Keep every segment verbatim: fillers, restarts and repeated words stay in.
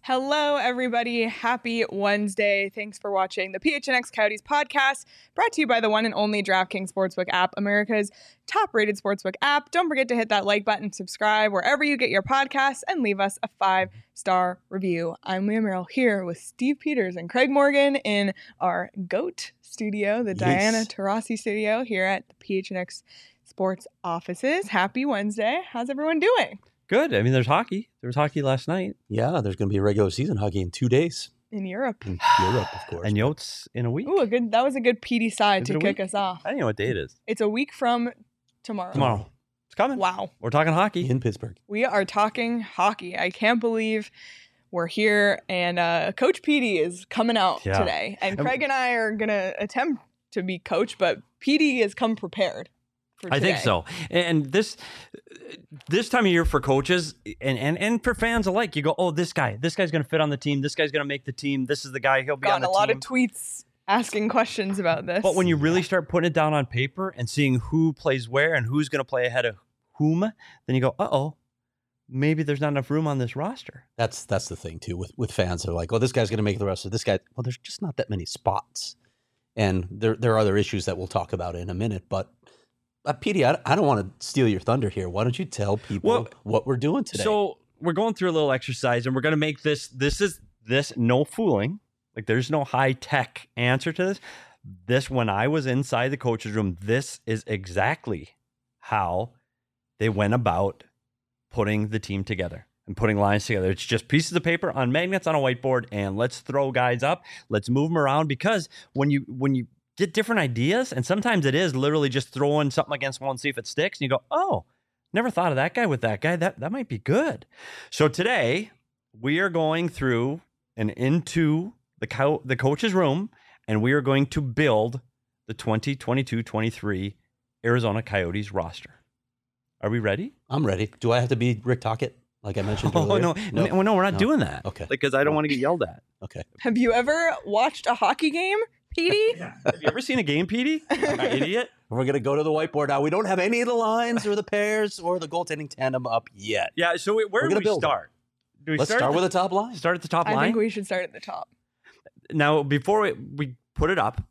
Hello, everybody. Happy Wednesday. Thanks for watching the P H N X Coyotes podcast, brought to you by the one and only DraftKings Sportsbook app, America's top-rated sportsbook app. Don't forget to hit that like button, subscribe wherever you get your podcasts, and leave us a five-star review. I'm Leah Merrill here with Steve Peters and Craig Morgan in our GOAT studio, the yes. Diana Taurasi studio here at the P H N X Sports offices. Happy Wednesday. How's everyone doing? Good. I mean, there's hockey. There was hockey last night. Yeah, there's going to be a regular season hockey in two days. In Europe. In Europe, of course. And Yotes in a week. Ooh, a good. That was a good P D side to kick us off. I don't know what day it is. It's a week from tomorrow. Tomorrow. It's coming. Wow. We're talking hockey. In Pittsburgh. We are talking hockey. I can't believe we're here. And uh, Coach Petey is coming out yeah. today. And Craig and I are going to attempt to be coach, but Petey has come prepared. I think so. And this this time of year for coaches and, and, and for fans alike, you go, oh, this guy, this guy's going to fit on the team. This guy's going to make the team. This is the guy. He'll be Gotten on the a lot team. of tweets asking questions about this. But when you really start putting it down on paper and seeing who plays where and who's going to play ahead of whom, then you go, uh-oh, maybe there's not enough room on this roster. That's that's the thing, too, with, with fans. They're like, oh, this guy's going to make the roster. This guy, well, there's just not that many spots. And there, there are other issues that we'll talk about in a minute, but Uh, Petey, I, I don't want to steal your thunder here. Why don't you tell people well, what we're doing today? So we're going through a little exercise, and we're going to make this, this is this no fooling. Like there's no high-tech answer to this. This, when I was inside the coach's room, this is exactly how they went about putting the team together and putting lines together. It's just pieces of paper on magnets on a whiteboard, and let's throw guys up. Let's move them around, because when you when you get different ideas, and sometimes it is literally just throwing something against one, see if it sticks, and you go, oh, never thought of that guy with that guy. That that might be good. So today, we are going through and into the co- the coach's room, and we are going to build the twenty twenty-two twenty-three Arizona Coyotes roster. Are we ready? I'm ready. Do I have to be Rick Tocchet, like I mentioned oh, earlier? No, no, no, no we're not no. doing that. Okay. Because I don't want to get yelled at. Okay. Have you ever watched a hockey game, Petey? Yeah. Have you ever seen a game, Petey? An idiot. We're going to go to the whiteboard now. We don't have any of the lines or the pairs or the goaltending tandem up yet. Yeah, so we, where We're do we build start? Do we Let's start, start the, with the top line. Start at the top I line? I think we should start at the top. Now, before we, we put it up,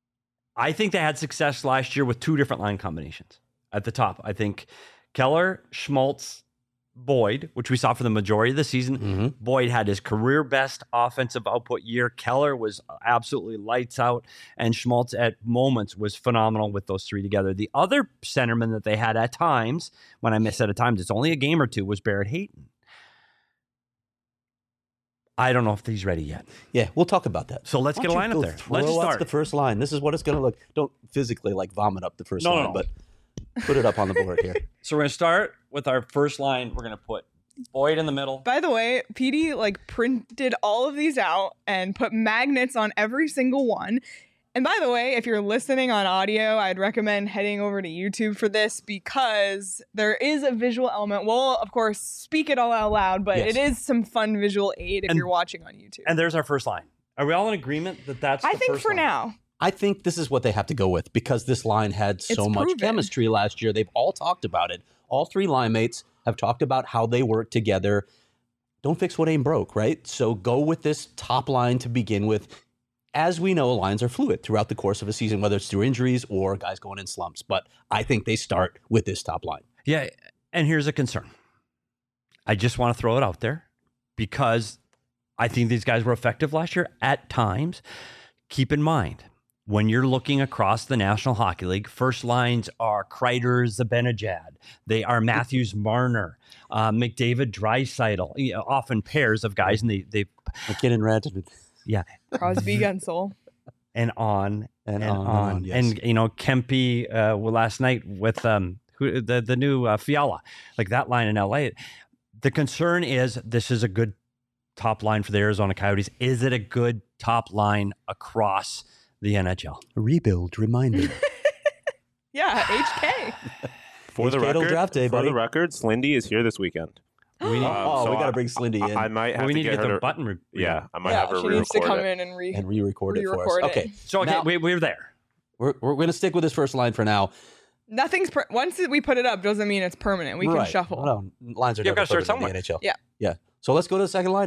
I think they had success last year with two different line combinations at the top. I think Keller, Schmaltz, Boyd, which we saw for the majority of the season. Mm-hmm. Boyd had his career best offensive output year. Keller was absolutely lights out, and Schmaltz at moments was phenomenal with those three together. The other centerman that they had at times, when I said at times, it's only a game or two, was Barrett Hayton. I don't know if he's ready yet. Yeah, we'll talk about that. So let's Why get a line up there. Let's throw start. up the first line. This is what it's going to look. Don't physically like vomit up the first No, line, no. but put it up on the board here. So we're going to start with our first line. We're going to put Boyd in the middle. By the way, Petey like printed all of these out and put magnets on every single one. And by the way, if you're listening on audio, I'd recommend heading over to YouTube for this, because there is a visual element. We'll, of course, speak it all out loud, but Yes. it is some fun visual aid if And- you're watching on YouTube. And there's our first line. Are we all in agreement that that's I the think first for line? now. I think this is what they have to go with, because this line had so It's much proven. chemistry last year. They've all talked about it. All three line mates have talked about how they work together. Don't fix what ain't broke, right? So go with this top line to begin with. As we know, lines are fluid throughout the course of a season, whether it's through injuries or guys going in slumps. But I think they start with this top line. Yeah, and here's a concern. I just want to throw it out there, because I think these guys were effective last year at times. Keep in mind, when you're looking across the National Hockey League, first lines are Kreider, Zibanejad. They are Matthews, Marner, uh, McDavid, Draisaitl. You know, often pairs of guys, and they they McKinnon, Rantanen. yeah, Crosby, Gunsel. and on And and, on on, and on, yes. and you know Kempe uh, well, last night with um who the the new uh, Fiala, like that line in L A. The concern is this is a good top line for the Arizona Coyotes. Is it a good top line across the N H L? A rebuild reminder. Yeah, H K. For the H K till record, draft day, for buddy. the record, Slindy is here this weekend. We need, Um, oh, so we got I- to bring Slindy in I might have well, we to need to get, get her the to, button. Re- Yeah, I might Yeah, have her she needs to re-record come it. in and re and re-record it for us. re-record it. Okay, So okay, Now- we, we're there. we're, we're going to stick with this first line for now. Nothing's per- once we put it up doesn't mean it's permanent. We right. can shuffle. No, lines are You've never got to start perfect in the somewhere. N H L. Yeah. Yeah. So let's go to the second line now.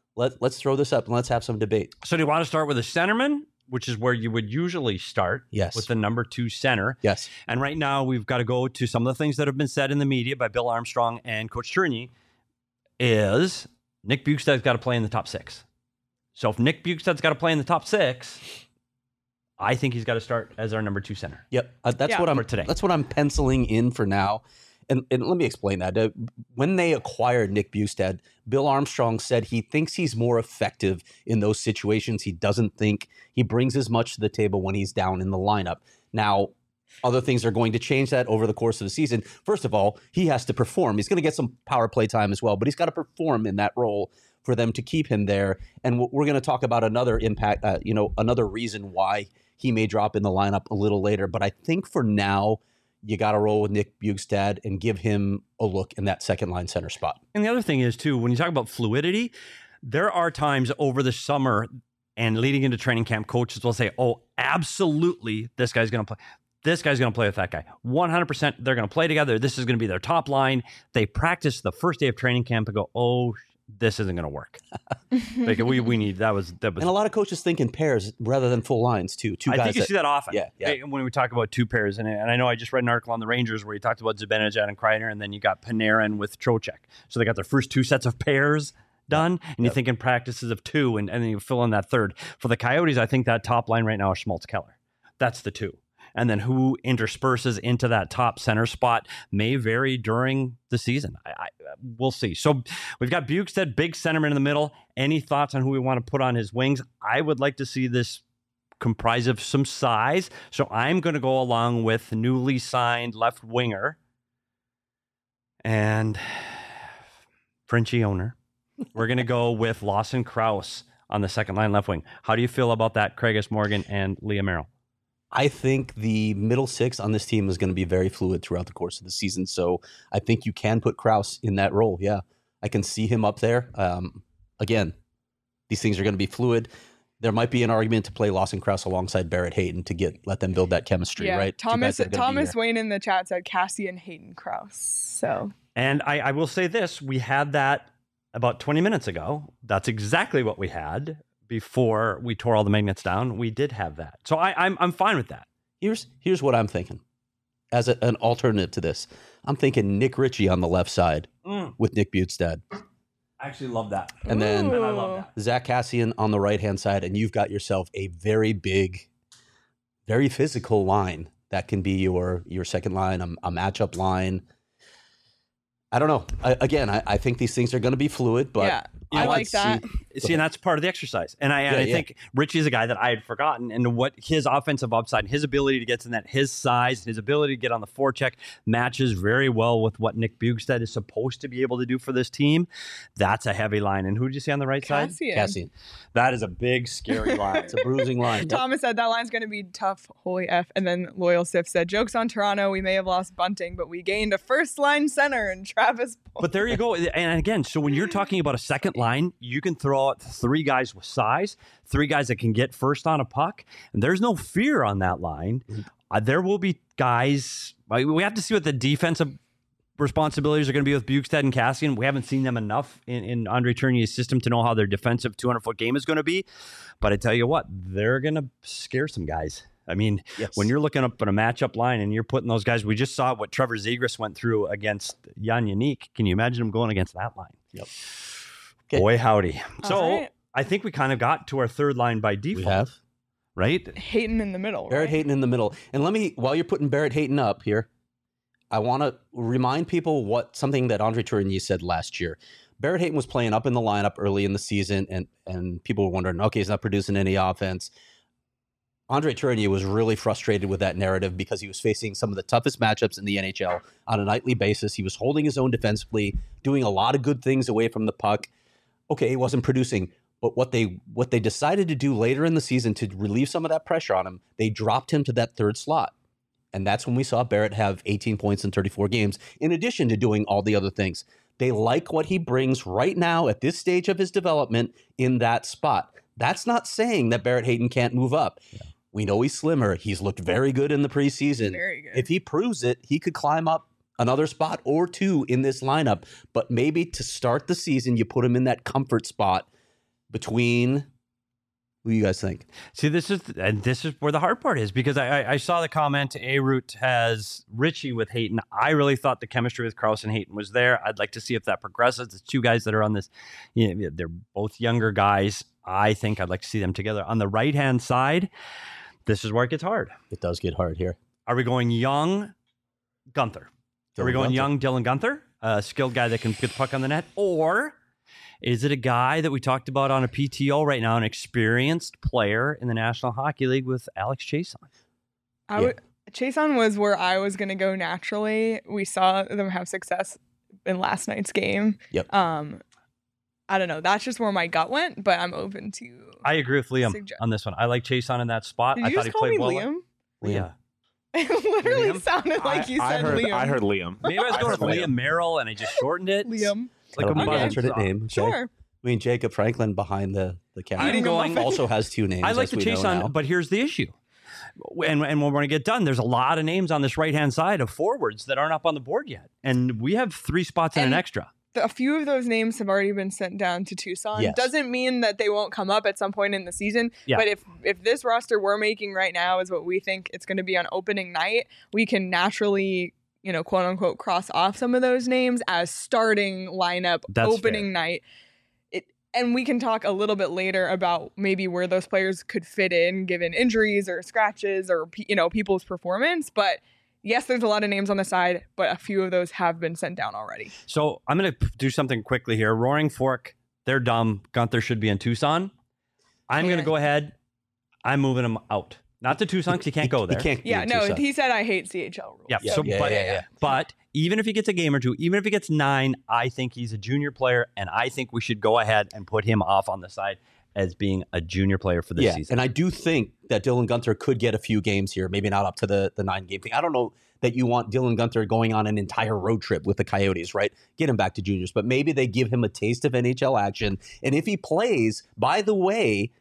Let, let's throw this up and let's have some debate. So do you want to start with a centerman, which is where you would usually start Yes. with the number two center? Yes. And right now we've got to go to some of the things that have been said in the media by Bill Armstrong and Coach Tourigny is Nick Bjugstad's got to play in the top six. So if Nick Bjugstad's got to play in the top six, I think he's got to start as our number two center. Yep. Uh, that's Yeah. what I'm For today. That's what I'm penciling in for now. And, and let me explain that. Uh, when they acquired Nick Bjugstad, Bill Armstrong said he thinks he's more effective in those situations. He doesn't think he brings as much to the table when he's down in the lineup. Now, other things are going to change that over the course of the season. First of all, he has to perform. He's going to get some power play time as well, but he's got to perform in that role for them to keep him there. And we're going to talk about another impact, uh, you know, another reason why he may drop in the lineup a little later. But I think for now, you got to roll with Nick Bjugstad and give him a look in that second line center spot. And the other thing is, too, when you talk about fluidity, there are times over the summer and leading into training camp, coaches will say, oh, absolutely, this guy's going to play. This guy's going to play with that guy. one hundred percent they're going to play together. This is going to be their top line. They practice the first day of training camp and go, oh, this isn't going to work. Like, we we need, that was, that was. And a lot of coaches think in pairs rather than full lines, too. Two I guys think you that- see that often. Yeah, yeah. eh, When we talk about two pairs, and, and I know I just read an article on the Rangers where he talked about Zibanejad and Kreider, and then you got Panarin with Trocheck. So they got their first two sets of pairs done, and you think in practices of two, and, and then you fill in that third. For the Coyotes, I think that top line right now is Schmaltz Keller. That's the two. And then who intersperses into that top center spot may vary during the season. I, I, we'll see. So we've got Bjugstad, big centerman in the middle. Any thoughts on who we want to put on his wings? I would like to see this comprise of some size. So I'm going to go along with newly signed left winger and Frenchie owner. We're going to go with Lawson Krause on the second line left wing. How do you feel about that, Craigus Morgan and Leah Merrill? I think the middle six on this team is going to be very fluid throughout the course of the season. So I think you can put Krause in that role. Yeah, I can see him up there. Um, again, these things are going to be fluid. There might be an argument to play Lawson Krause alongside Barrett Hayton to get let them build that chemistry, Yeah, right? Two guys Thomas that are gonna be Thomas there. Wayne in the chat said Cassian Hayden Krause. So And I, I will say this, we had that about twenty minutes ago. That's exactly what we had before we tore all the magnets down. We did have that. So I, I'm I'm fine with that. Here's here's what I'm thinking. As a, an alternative to this, I'm thinking Nick Ritchie on the left side Mm, with Nick Bjugstad. I actually love that. And then- And I love that. Zach Cassian on the right-hand side, and you've got yourself a very big, very physical line that can be your your second line, a, a matchup line. I don't know. I, again, I, I think these things are going to be fluid, but yeah, you I know, like let's that. see- See, and that's part of the exercise. And I, and Yeah, I yeah. think Richie is a guy that I had forgotten, and what his offensive upside, his ability to get to that, his size, his ability to get on the forecheck matches very well with what Nick Bjugstad is supposed to be able to do for this team. That's a heavy line. And who did you see on the right side? Cassian. Cassian. That is a big, scary line. It's a bruising line. Yep. Thomas said that line's going to be tough. Holy F. And then Loyal Sif said, jokes on Toronto. We may have lost Bunting, but we gained a first line center in Travis Boyd. But there you go. And again, so when you're talking about a second line, you can throw out three guys with size, three guys that can get first on a puck, and there's no fear on that line. Uh, there will be guys. uh, We have to see what the defensive responsibilities are going to be with Bjugstad and Cassian. We haven't seen them enough in, in Andre Tourigny's system to know how their defensive two hundred foot game is going to be. But I tell you what, they're going to scare some guys. I mean, Yes. when you're looking up at a matchup line and you're putting those guys, we just saw what Trevor Zegras went through against Jan Yannick. Can you imagine him going against that line? Yep. Okay. Boy, howdy. So All right. I think we kind of got to our third line by We default, have right? Hayton in the middle. Barrett right? Hayton in the middle. And let me, while you're putting Barrett Hayton up here, I want to remind people what something that Andre Tourigny said last year. Barrett Hayton was playing up in the lineup early in the season, and and people were wondering, okay, he's not producing any offense. Andre Tourigny was really frustrated with that narrative because he was facing some of the toughest matchups in the N H L on a nightly basis. He was holding his own defensively, doing a lot of good things away from the puck. Okay, he wasn't producing, but what they what they decided to do later in the season to relieve some of that pressure on him, they dropped him to that third slot. And that's when we saw Barrett have eighteen points in thirty-four games, in addition to doing all the other things. They like what he brings right now at this stage of his development in that spot. That's not saying that Barrett Hayton can't move up. Yeah. We know he's slimmer. He's looked very good in the preseason. Very good. If he proves it, he could climb up another spot or two in this lineup. But maybe to start the season, you put him in that comfort spot between. Who do you guys think? See, this is and this is where the hard part is because I, I, I saw the comment A-Root has Richie with Hayton. I really thought the chemistry with Carlson Hayton was there. I'd like to see if that progresses. The two guys that are on this, you know, they're both younger guys. I think I'd like to see them together. On the right-hand side, this is where it gets hard. It does get hard here. Are we going young Gunther? Dylan are we going Guenther. young Dylan Guenther, a skilled guy that can get the puck on the net? Or is it a guy that we talked about on a P T O right now, an experienced player in the National Hockey League with Alex Chason? I Yeah. would. Chason was where I was going to go naturally. We saw them have success in last night's game. Yep. Um, I don't know. That's just where my gut went, but I'm open to. I agree with Liam Suggest- on this one. I like Chason in that spot. Did I you thought just he call played me well. Liam? Liam. It literally Liam? sounded like you I, said I heard, Liam. I heard Liam. Maybe I was I going heard with Liam. Liam Merrill and I just shortened it. Liam. Like I a don't know Okay. the alternate name. Okay. Sure. I mean, Jacob Franklin behind the the I'm camera Eating a going. muffin. also has two names. I like as to we chase know on, now. but here's the issue. And, and when we're going to get done, there's a lot of names on this right-hand side of forwards that aren't up on the board yet. And we have three spots and, And- an extra. A few of those names have already been sent down to Tucson. Yes. Doesn't mean that they won't come up at some point in the season. Yeah. But if if this roster we're making right now is what we think it's going to be on opening night, we can naturally, you know, quote unquote, cross off some of those names as starting lineup That's opening fair. night. It and we can talk a little bit later about maybe where those players could fit in given injuries or scratches or you know people's performance. But yes, there's a lot of names on the side, but a few of those have been sent down already. So I'm going to do something quickly here. Roaring Fork, they're dumb. Gunther should be in Tucson. I'm going to Yeah. go ahead. I'm moving him out. Not to Tucson because he can't go there. He can't. Yeah, be no, Tucson. he said I hate C H L rules. Yeah, Yeah, so, yeah, but, yeah, yeah. but even if he gets a game or two, even if he gets nine, I think he's a junior player, and I think we should go ahead and put him off on the side as being a junior player for this yeah, season. and I do think that Dylan Guenther could get a few games here, maybe not up to the, the nine game thing. I don't know that you want Dylan Guenther going on an entire road trip with the Coyotes, right? Get him back to juniors, but maybe they give him a taste of N H L action. And if he plays, by the way,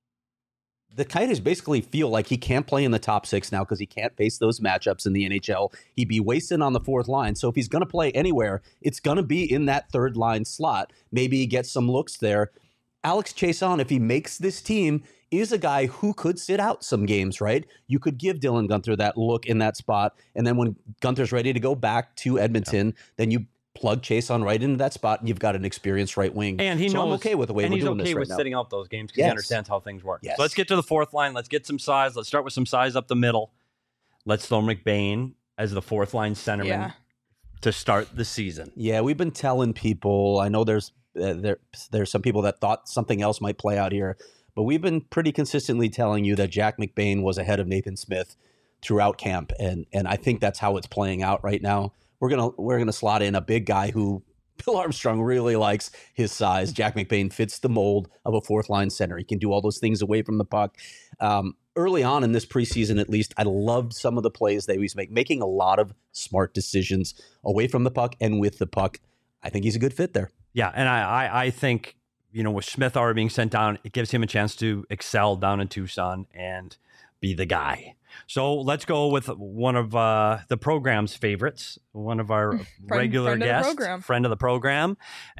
the Coyotes basically feel like he can't play in the top six now because he can't face those matchups in the N H L. He'd be wasted on the fourth line. So if he's going to play anywhere, it's going to be in that third line slot. Maybe he gets some looks there. Alex Chason, if he makes this team, is a guy who could sit out some games, right? You could give Dylan Guenther that look in that spot. And then when Gunther's ready to go back to Edmonton, then you plug Chason right into that spot and you've got an experienced right wing. And he so knows, I'm okay with the way and we're he's doing okay this right with now. sitting out those games because Yes. he understands how things work. Yes. So let's get to the fourth line. Let's get some size. Let's start with some size up the middle. Let's throw McBain as the fourth line centerman Yeah. to start the season. Yeah, we've been telling people. I know there's uh, there there's some people that thought something else might play out here, but we've been pretty consistently telling you that Jack McBain was ahead of Nathan Smith throughout camp, and and I think that's how it's playing out right now. We're gonna we're gonna slot in a big guy who Bill Armstrong really likes his size. Jack McBain fits the mold of a fourth line center. He can do all those things away from the puck. Um, early on in this preseason, at least, I loved some of the plays that he was making, making a lot of smart decisions away from the puck and with the puck. I think he's a good fit there. Yeah, and I, I, I think, you know, with Smith already being sent down, it gives him a chance to excel down in Tucson and be the guy. So let's go with one of uh, the program's favorites, one of our regular friend of the guests, program. friend of the program.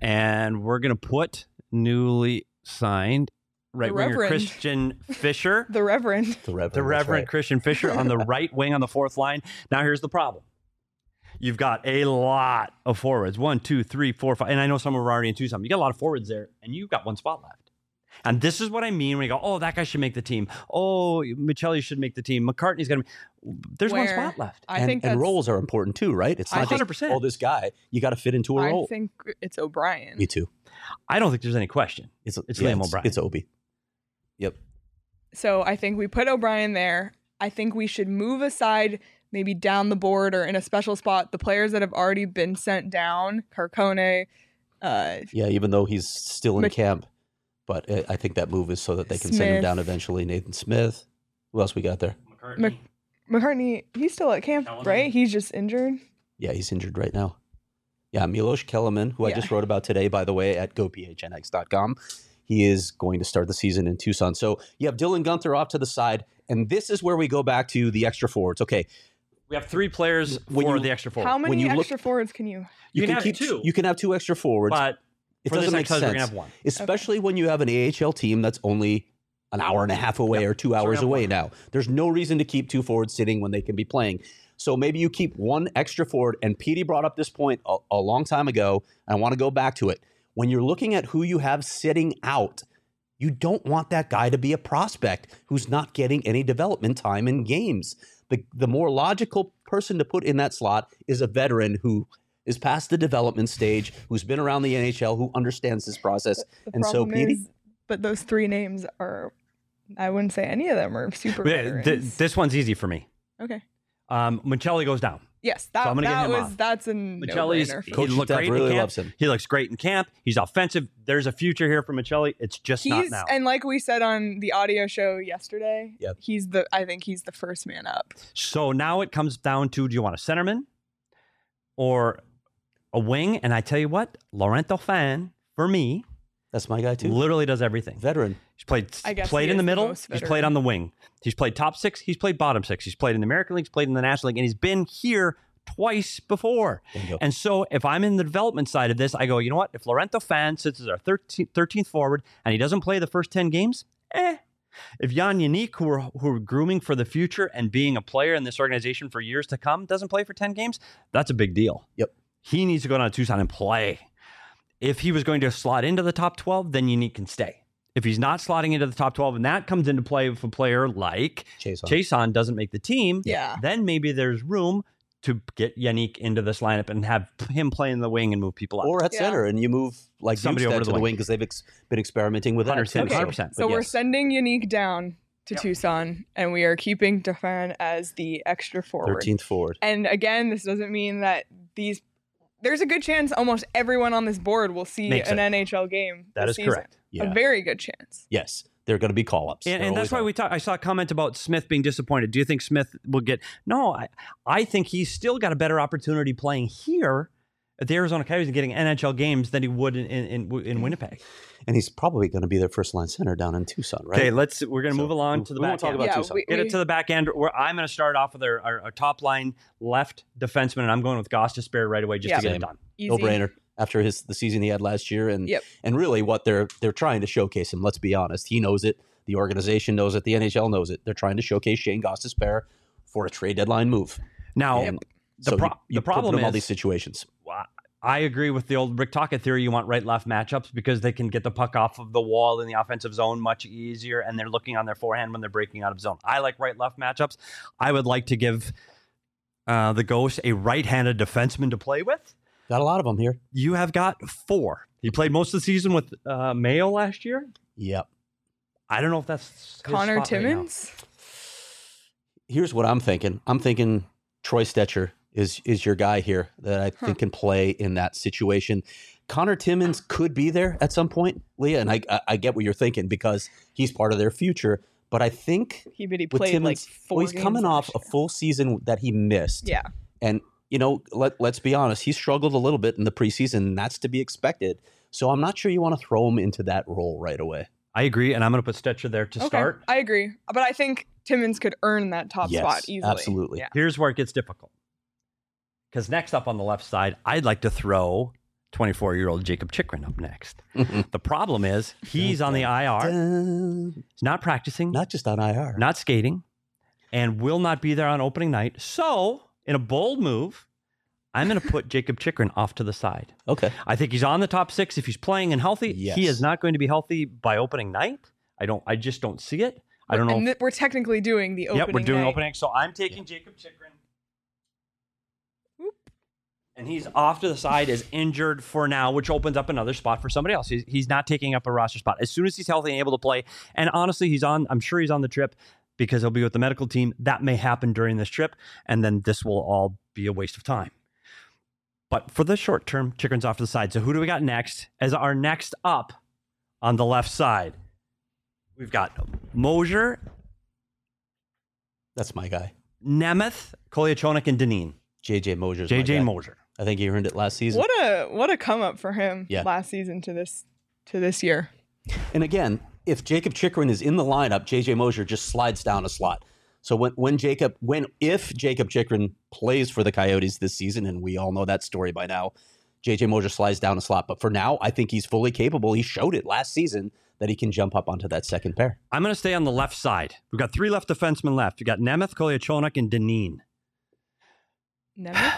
And we're going to put newly signed right winger Reverend. Christian Fisher, The Reverend. The Reverend. the that's Reverend right. Christian Fisher on the right wing on the fourth line. Now, here's the problem. You've got a lot of forwards. One, two, three, four, five. And I know some are already in Tucson. You got a lot of forwards there, and you've got one spot left. And this is what I mean when you go, oh, that guy should make the team. Oh, Michelli should make the team. McCartney's going to be. There's one Where spot left. I and, think and that's, roles are important too, right? It's I not one hundred just, percent. oh, this guy. You got to fit into a I role. think it's O'Brien. Me too. I don't think there's any question. It's, It's yeah, Liam it's, O'Brien. It's Obi. Yep. So I think we put O'Brien there. I think we should move aside, maybe down the board or in a special spot, the players that have already been sent down, Carcone, uh, Yeah, even though he's still in Mc- camp. But uh, I think that move is so that they can send him Smith. down eventually. Nathan Smith. Who else we got there? Mc- McCartney, he's still at camp, Kellerman. right? He's just injured. Yeah, he's injured right now. Yeah, Milos Kellerman, who I Yeah. just wrote about today, by the way, at go p h n x dot com. He is going to start the season in Tucson. So you have Dylan Guenther off to the side, and this is where we go back to the extra forwards. Okay, We have three players When for you- the extra forward. How many you look- extra forwards can you? You can can have keep two. You can have two extra forwards. But It For this doesn't make exercise, sense, we're gonna have one. especially when you have an A H L team that's only an hour and a half away Yep. or two So we're hours gonna have away one. now. There's no reason to keep two forwards sitting when they can be playing. So maybe you keep one extra forward. And Petey brought up this point a, a long time ago. And I want to go back to it. When you're looking at who you have sitting out, you don't want that guy to be a prospect who's not getting any development time in games. The, the more logical person to put in that slot is a veteran who is past the development stage, who's been around the N H L, who understands this process. The And so, problem Petey? is, but those three names are, I wouldn't say any of them are super Yeah, th- veterans. this one's easy for me. Okay. Um, Michelli goes down. Yes, that, So I'm gonna get that him was off. that's a Michelli's no-brainer. for he Coach looked Staff great really in camp. loves him. He looks great in camp. He's offensive. There's a future here for Michelli. It's just not He's now. and like we said on the audio show yesterday, Yep. he's the I think he's the first man up. So now it comes down to: do you want a centerman or a wing? And I tell you what, Laurento Fan for me That's my guy, too. literally does everything. Veteran. He's played I guess played he in the is the middle. most He's veteran. played on the wing. He's played top six. He's played bottom six. He's played in the American League. He's played in the National League, and he's been here twice before. Bingo. And so if I'm in the development side of this, I go, you know what? If Laurento Fan sits as our thirteenth, thirteenth forward and he doesn't play the first ten games, eh. If Jan Yannick, who are, who are grooming for the future and being a player in this organization for years to come, doesn't play for ten games, that's a big deal. Yep. He needs to go down to Tucson and play. If he was going to slot into the top twelve, then Yannick can stay. If he's not slotting into the top twelve, and that comes into play with a player like Chase on. Chason doesn't make the team, Yeah. then maybe there's room to get Yannick into this lineup and have him play in the wing and move people up. Or at Yeah. center, and you move like Somebody Bukestad over to the the wing. wing because they've ex- been experimenting with that. one hundred percent, too. one hundred percent. But So we're yes. sending Unique down to Tucson, and we are keeping Defan as the extra forward. thirteenth forward. And again, this doesn't mean that these. There's a good chance almost everyone on this board will see Makes an it. N H L game. That this is season. correct. Yeah. A very good chance. Yes, they're going to be call-ups. And, They're and that's always why are. we talk. I saw a comment about Smith being disappointed. Do you think Smith will get? No, I, I think he's still got a better opportunity playing here at the Arizona Coyotes and getting N H L games than he would in in, in, in Winnipeg. And he's probably going to be their first line center down in Tucson, right? Okay, let's. We're going to So, move along we- to the we back won't talk end. about yeah, Tucson. we, Get we- it to the back end. Where I'm going to start off with our, our, our top line left defenseman, and I'm going with Goss Despair right away just Yeah. to get Same. it done. easy. No brainer. After his the season he had last year, and Yep. and really what they're they're trying to showcase him. Let's be honest, he knows it. The organization knows it. The N H L knows it. They're trying to showcase Shane Gostisbehere for a trade deadline move. Now, And the, so pro- you, you the problem put him is all these situations. I agree with the old Rick Tocchet theory. You want right-left matchups because they can get the puck off of the wall in the offensive zone much easier, and they're looking on their forehand when they're breaking out of zone. I like right-left matchups. I would like to give uh, the Ghost a right-handed defenseman to play with. Got a lot of them here. You have got four. He played most of the season with uh, Mayo last year. Yep. I don't know if that's his Connor spot right now. Timmins. Here's what I'm thinking. I'm thinking Troy Stetcher is is your guy here that I think can play in that situation. Connor Timmins could be there at some point, Leah, and I I, I get what you're thinking because he's part of their future. But I think He but he with played Timmins, like four. well, he's coming games off a last full season that he missed. year. Yeah. And, you know, let, let's be honest, he struggled a little bit in the preseason, and that's to be expected. So I'm not sure you want to throw him into that role right away. I agree, and I'm going to put Stetcher there to Okay. start. I agree, but I think Timmins could earn that top Yes, spot easily. absolutely. Yeah. Here's where it gets difficult. Because next up on the left side, I'd like to throw twenty-four-year-old Jacob Chikrin up next. The problem is he's on the I R. Dun. He's not practicing, Not just on I R. not skating, and will not be there on opening night. So, in a bold move, I'm going to put Jacob Chikrin off to the side. Okay. I think he's on the top six if he's playing and healthy. Yes. He is not going to be healthy by opening night. I don't. I just don't see it. I don't know. And if- th- we're technically doing the opening. Yep, we're doing night. opening. So I'm taking Jacob Chikrin. And he's off to the side, is injured for now, which opens up another spot for somebody else. He's, he's not taking up a roster spot. As soon as he's healthy and able to play, and honestly, he's on, I'm sure he's on the trip because he'll be with the medical team. That may happen during this trip, and then this will all be a waste of time. But for the short term, Chikrin's off to the side. So who do we got next as our next up on the left side? We've got Mosier, That's my guy. Nemeth, Kolyachonik, and Deneen. J J Mosier's J J my guy. Mosier. I think he earned it last season. What a what a come up for him Yeah. last season to this to this year. And again, if Jacob Chikrin is in the lineup, J J Mosier just slides down a slot. So when when Jacob when if Jacob Chikrin plays for the Coyotes this season, and we all know that story by now, J J Moser slides down a slot. But for now, I think he's fully capable. He showed it last season that he can jump up onto that second pair. I'm going to stay on the left side. We've got three left defensemen left. We've got Nemeth, Kolyachonok, and Dineen. Nemeth?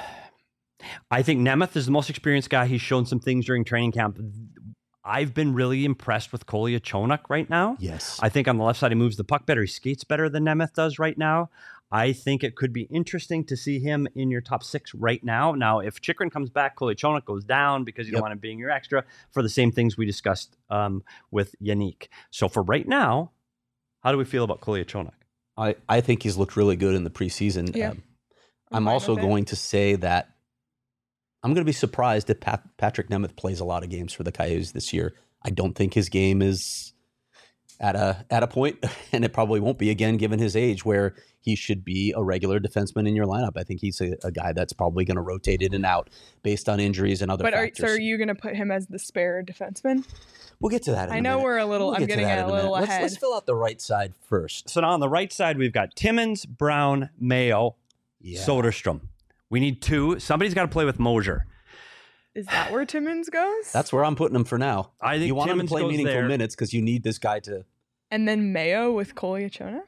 I think Nemeth is the most experienced guy. He's shown some things during training camp. I've been really impressed with Kolyachonok right now. Yes. I think on the left side, he moves the puck better. He skates better than Nemeth does right now. I think it could be interesting to see him in your top six right now. Now, if Chychrun comes back, Kolyachonok goes down because you Yep. don't want him being your extra for the same things we discussed um, with Yannick. So for right now, how do we feel about Kolyachonok? I, I think he's looked really good in the preseason. Yeah. Um, I'm I'm fine also with it. going to say that I'm going to be surprised if Pat, Patrick Nemeth plays a lot of games for the Coyotes this year. I don't think his game is at a at a point, and it probably won't be again given his age, where he should be a regular defenseman in your lineup. I think he's a, a guy that's probably going to rotate in and out based on injuries and other But are, factors. so are you going to put him as the spare defenseman? We'll get to that in I a know minute. we're a little, We'll I'm get to getting that it in a little minute. ahead. Let's, let's fill out the right side first. So now on the right side, we've got Timmins, Brown, Mayo, Yeah. Soderstrom. We need two. Somebody's got to play with Moser. Is that where Timmins goes? That's where I'm putting him for now. I think You want Timmins him to play goes meaningful there. minutes because you need this guy to. And then Mayo with Kolyachonok?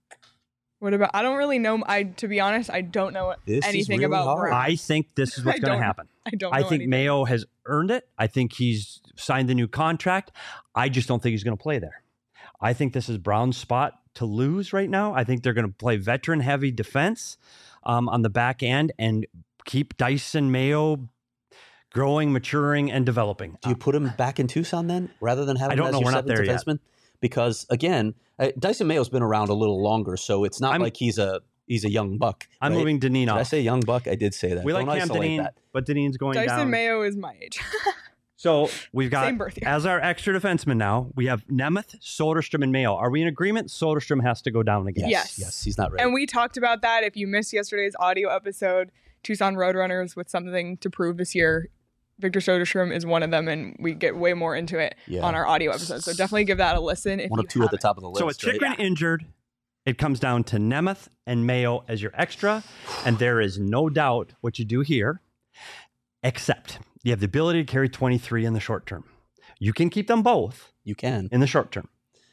What about, I don't really know, I to be honest, I don't know This is anything really about hard. Brown. I think this is what's I going to don't- happen. I don't I know think anything. Mayo has earned it. I think he's signed the new contract. I just don't think he's going to play there. I think this is Brown's spot to lose right now. I think they're going to play veteran heavy defense um, on the back end and keep Dyson Mayo growing, maturing, and developing. Do you put him back in Tucson then, rather than having I don't him as know. your We're not seventh there yet. defenseman? Because again, uh, Dyson Mayo's been around a little longer, so it's not I'm- like he's a he's a young buck. I'm right? moving Dineen Did I off. say young buck? I did say that. we like Don't Cam isolate Dineen, that. but Dineen's going Dyson down. Mayo is my age. So we've got, Same birth year. as our extra defenseman now, we have Nemeth, Soderstrom, and Mayo. Are we in agreement? Soderstrom has to go down again. Yes, Yes. yes, he's not ready. And we talked about that. If you missed yesterday's audio episode, Tucson Roadrunners with something to prove this year. Victor Soderstrom is one of them, and we get way more into it Yeah. on our audio episode. So definitely give that a listen. If One you of two at the haven't. top of the list. So with right? Chychrun injured, it comes down to Nemeth and Mayo as your extra, and there is no doubt what you do here, except you have the ability to carry twenty-three in the short term. You can keep them both You can. in the short term.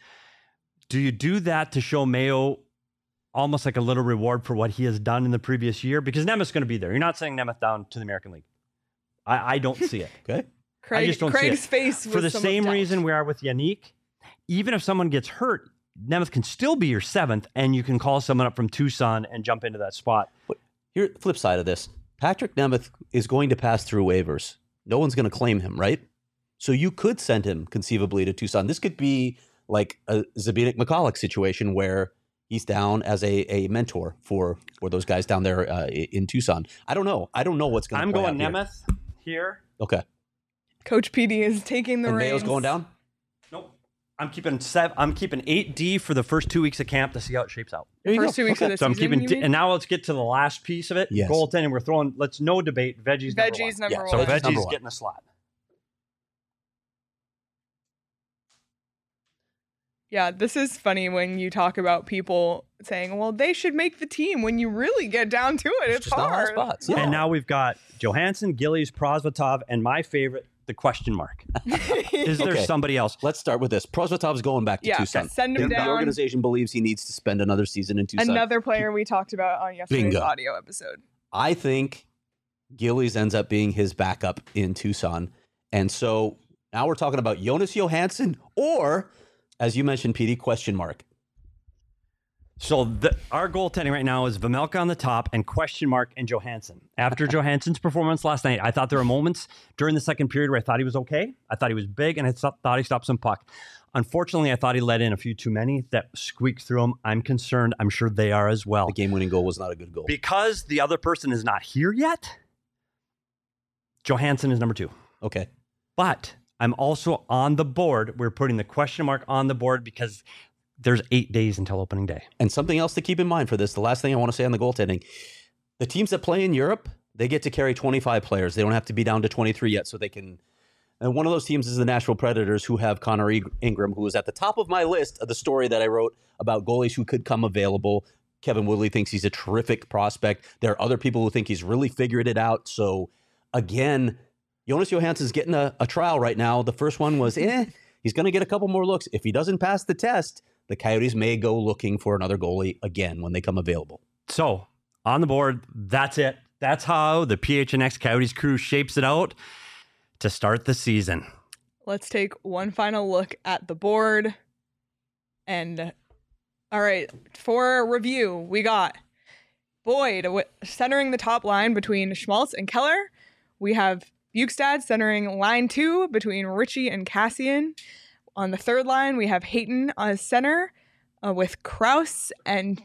Do you do that to show Mayo almost like a little reward for what he has done in the previous year? Because Nemeth's going to be there. You're not sending Nemeth down to the American League. I, I don't see it. Okay. Craig, just don't see Craig's it. face For was the some same doubt. reason we are with Yannick, even if someone gets hurt, Nemeth can still be your seventh, and you can call someone up from Tucson and jump into that spot. Here, flip side of this. Patrick Nemeth is going to pass through waivers. No one's going to claim him, right? So you could send him conceivably to Tucson. This could be like a Zbigniew McCulloch situation where he's down as a, a mentor for, for those guys down there uh, in Tucson. I don't know. I don't know what's going to I'm play going out here. Nemeth here. Okay. Coach P D is taking the And reins. Mayo's going down? Nope. I'm keeping seven. I'm keeping eight D for the first two weeks of camp to see how it shapes out. There you First go. two weeks Okay. of the So I'm season, keeping, you D- mean? and now let's get to the last piece of it. Yes. Goaltending. We're throwing. Let's no debate. Veggies. Number Veggies one. number Yeah, one. So Veggies number Veggies one. getting a slot. Yeah, this is funny when you talk about people saying, well, they should make the team. When you really get down to it, it's, just not high hard. spots. Yeah. And now we've got Johansson, Gillies, Prosvetov, and my favorite, the question mark. Is there Okay. somebody else? Let's start with this. Prosvetov's going back to Yeah, Tucson. send him The- The down. organization believes he needs to spend another season in Tucson. Another player we talked about on yesterday's Bingo. audio episode. I think Gillies ends up being his backup in Tucson. And so now we're talking about Jonas Johansson or, as you mentioned, P D, question mark. So the, our goaltending right now is Vamelka on the top and question mark and Johansson. After Johansson's performance last night, I thought there were moments during the second period where I thought he was okay. I thought he was big, and I thought thought he stopped some puck. Unfortunately, I thought he let in a few too many that squeaked through him. I'm concerned. I'm sure they are as well. The game-winning goal was not a good goal. Because the other person is not here yet, Johansson is number two. Okay. But I'm also on the board. We're putting the question mark on the board because there's eight days until opening day. And something else to keep in mind for this, the last thing I want to say on the goaltending, the teams that play in Europe, they get to carry twenty-five players. They don't have to be down to twenty-three yet, so they can. And one of those teams is the Nashville Predators, who have Connor Ing- Ingram, who is at the top of my list of the story that I wrote about goalies who could come available. Kevin Woodley thinks he's a terrific prospect. There are other people who think he's really figured it out. So, again, Jonas Johansson's getting a, a trial right now. The first one was, eh, he's going to get a couple more looks. If he doesn't pass the test, the Coyotes may go looking for another goalie again when they come available. So on the board, that's it. That's how the P H N X Coyotes crew shapes it out to start the season. Let's take one final look at the board. And all right, for review, we got Boyd w- centering the top line between Schmaltz and Keller. We have Bukestad centering line two between Ritchie and Cassian. On the third line, we have Hayton on center uh, with Kraus and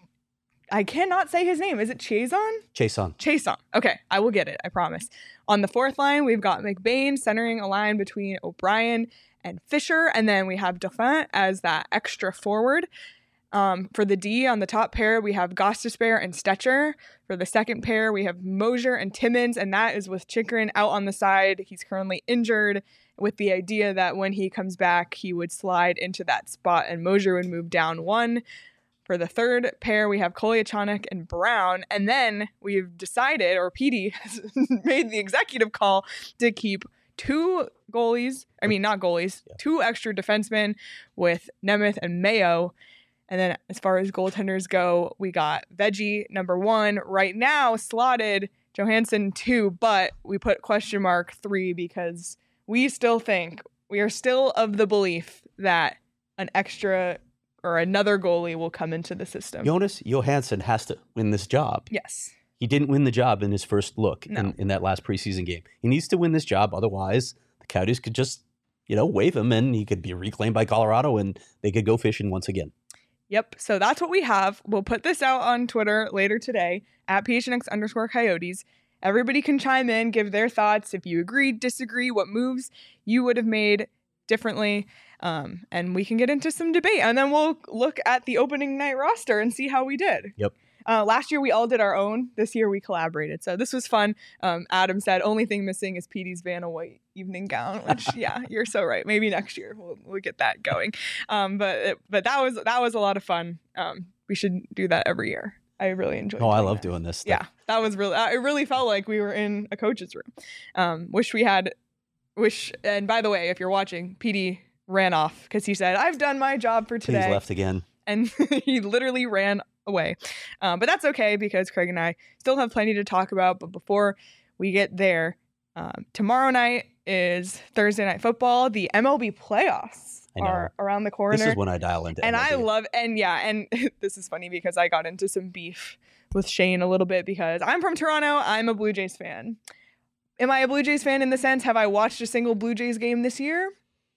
I cannot say his name. Is it Chason? Chason. Chason. Okay, I will get it. I promise. On the fourth line, we've got McBain centering a line between O'Brien and Fisher. And then we have Dauphin as that extra forward. Um, for the D, on the top pair, we have Gostisbehere and Stetcher. For the second pair, we have Mosier and Timmins, and that is with Chychrun out on the side. He's currently injured, with the idea that when he comes back, he would slide into that spot and Mosier would move down one. For the third pair, we have Kolyachonok and Brown, and then we've decided, or P D has made the executive call to keep two goalies, I mean, not goalies, yeah. two extra defensemen with Nemeth and Mayo. And then as far as goaltenders go, we got Veggie number one right now slotted, Johansson two, but we put question mark three because we still think, we are still of the belief that an extra or another goalie will come into the system. Jonas Johansson has to win this job. Yes. He didn't win the job in his first look No. in, in that last preseason game. He needs to win this job. Otherwise, the Coyotes could just, you know, waive him and he could be reclaimed by Colorado and they could go fishing once again. Yep. So that's what we have. We'll put this out on Twitter later today at P H N X underscore Coyotes. Everybody can chime in, give their thoughts. If you agree, disagree, what moves you would have made differently. Um, and we can get into some debate. And then we'll look at the opening night roster and see how we did. Yep. Uh, last year, we all did our own. This year, we collaborated. So this was fun. Um, Adam said, only thing missing is P D's Vanna White evening gown, which, yeah, you're so right. Maybe next year we'll, we'll get that going. Um, but it, but that was that was a lot of fun. Um, we should do that every year. I really enjoyed it. Oh, I love that. doing this stuff. Yeah, that was really, uh, it really felt like we were in a coach's room. Um, wish we had, wish, and by the way, if you're watching, P D ran off because he said, I've done my job for today. He's left again. And he literally ran away. Um, but that's okay because Craig and I still have plenty to talk about. But before we get there, um, tomorrow night is Thursday Night Football. The M L B playoffs are around the corner. This is when I dial into And M L B. I love, and yeah, and this is funny because I got into some beef with Shane a little bit because I'm from Toronto. I'm a Blue Jays fan. Am I a Blue Jays fan in the sense, have I watched a single Blue Jays game this year?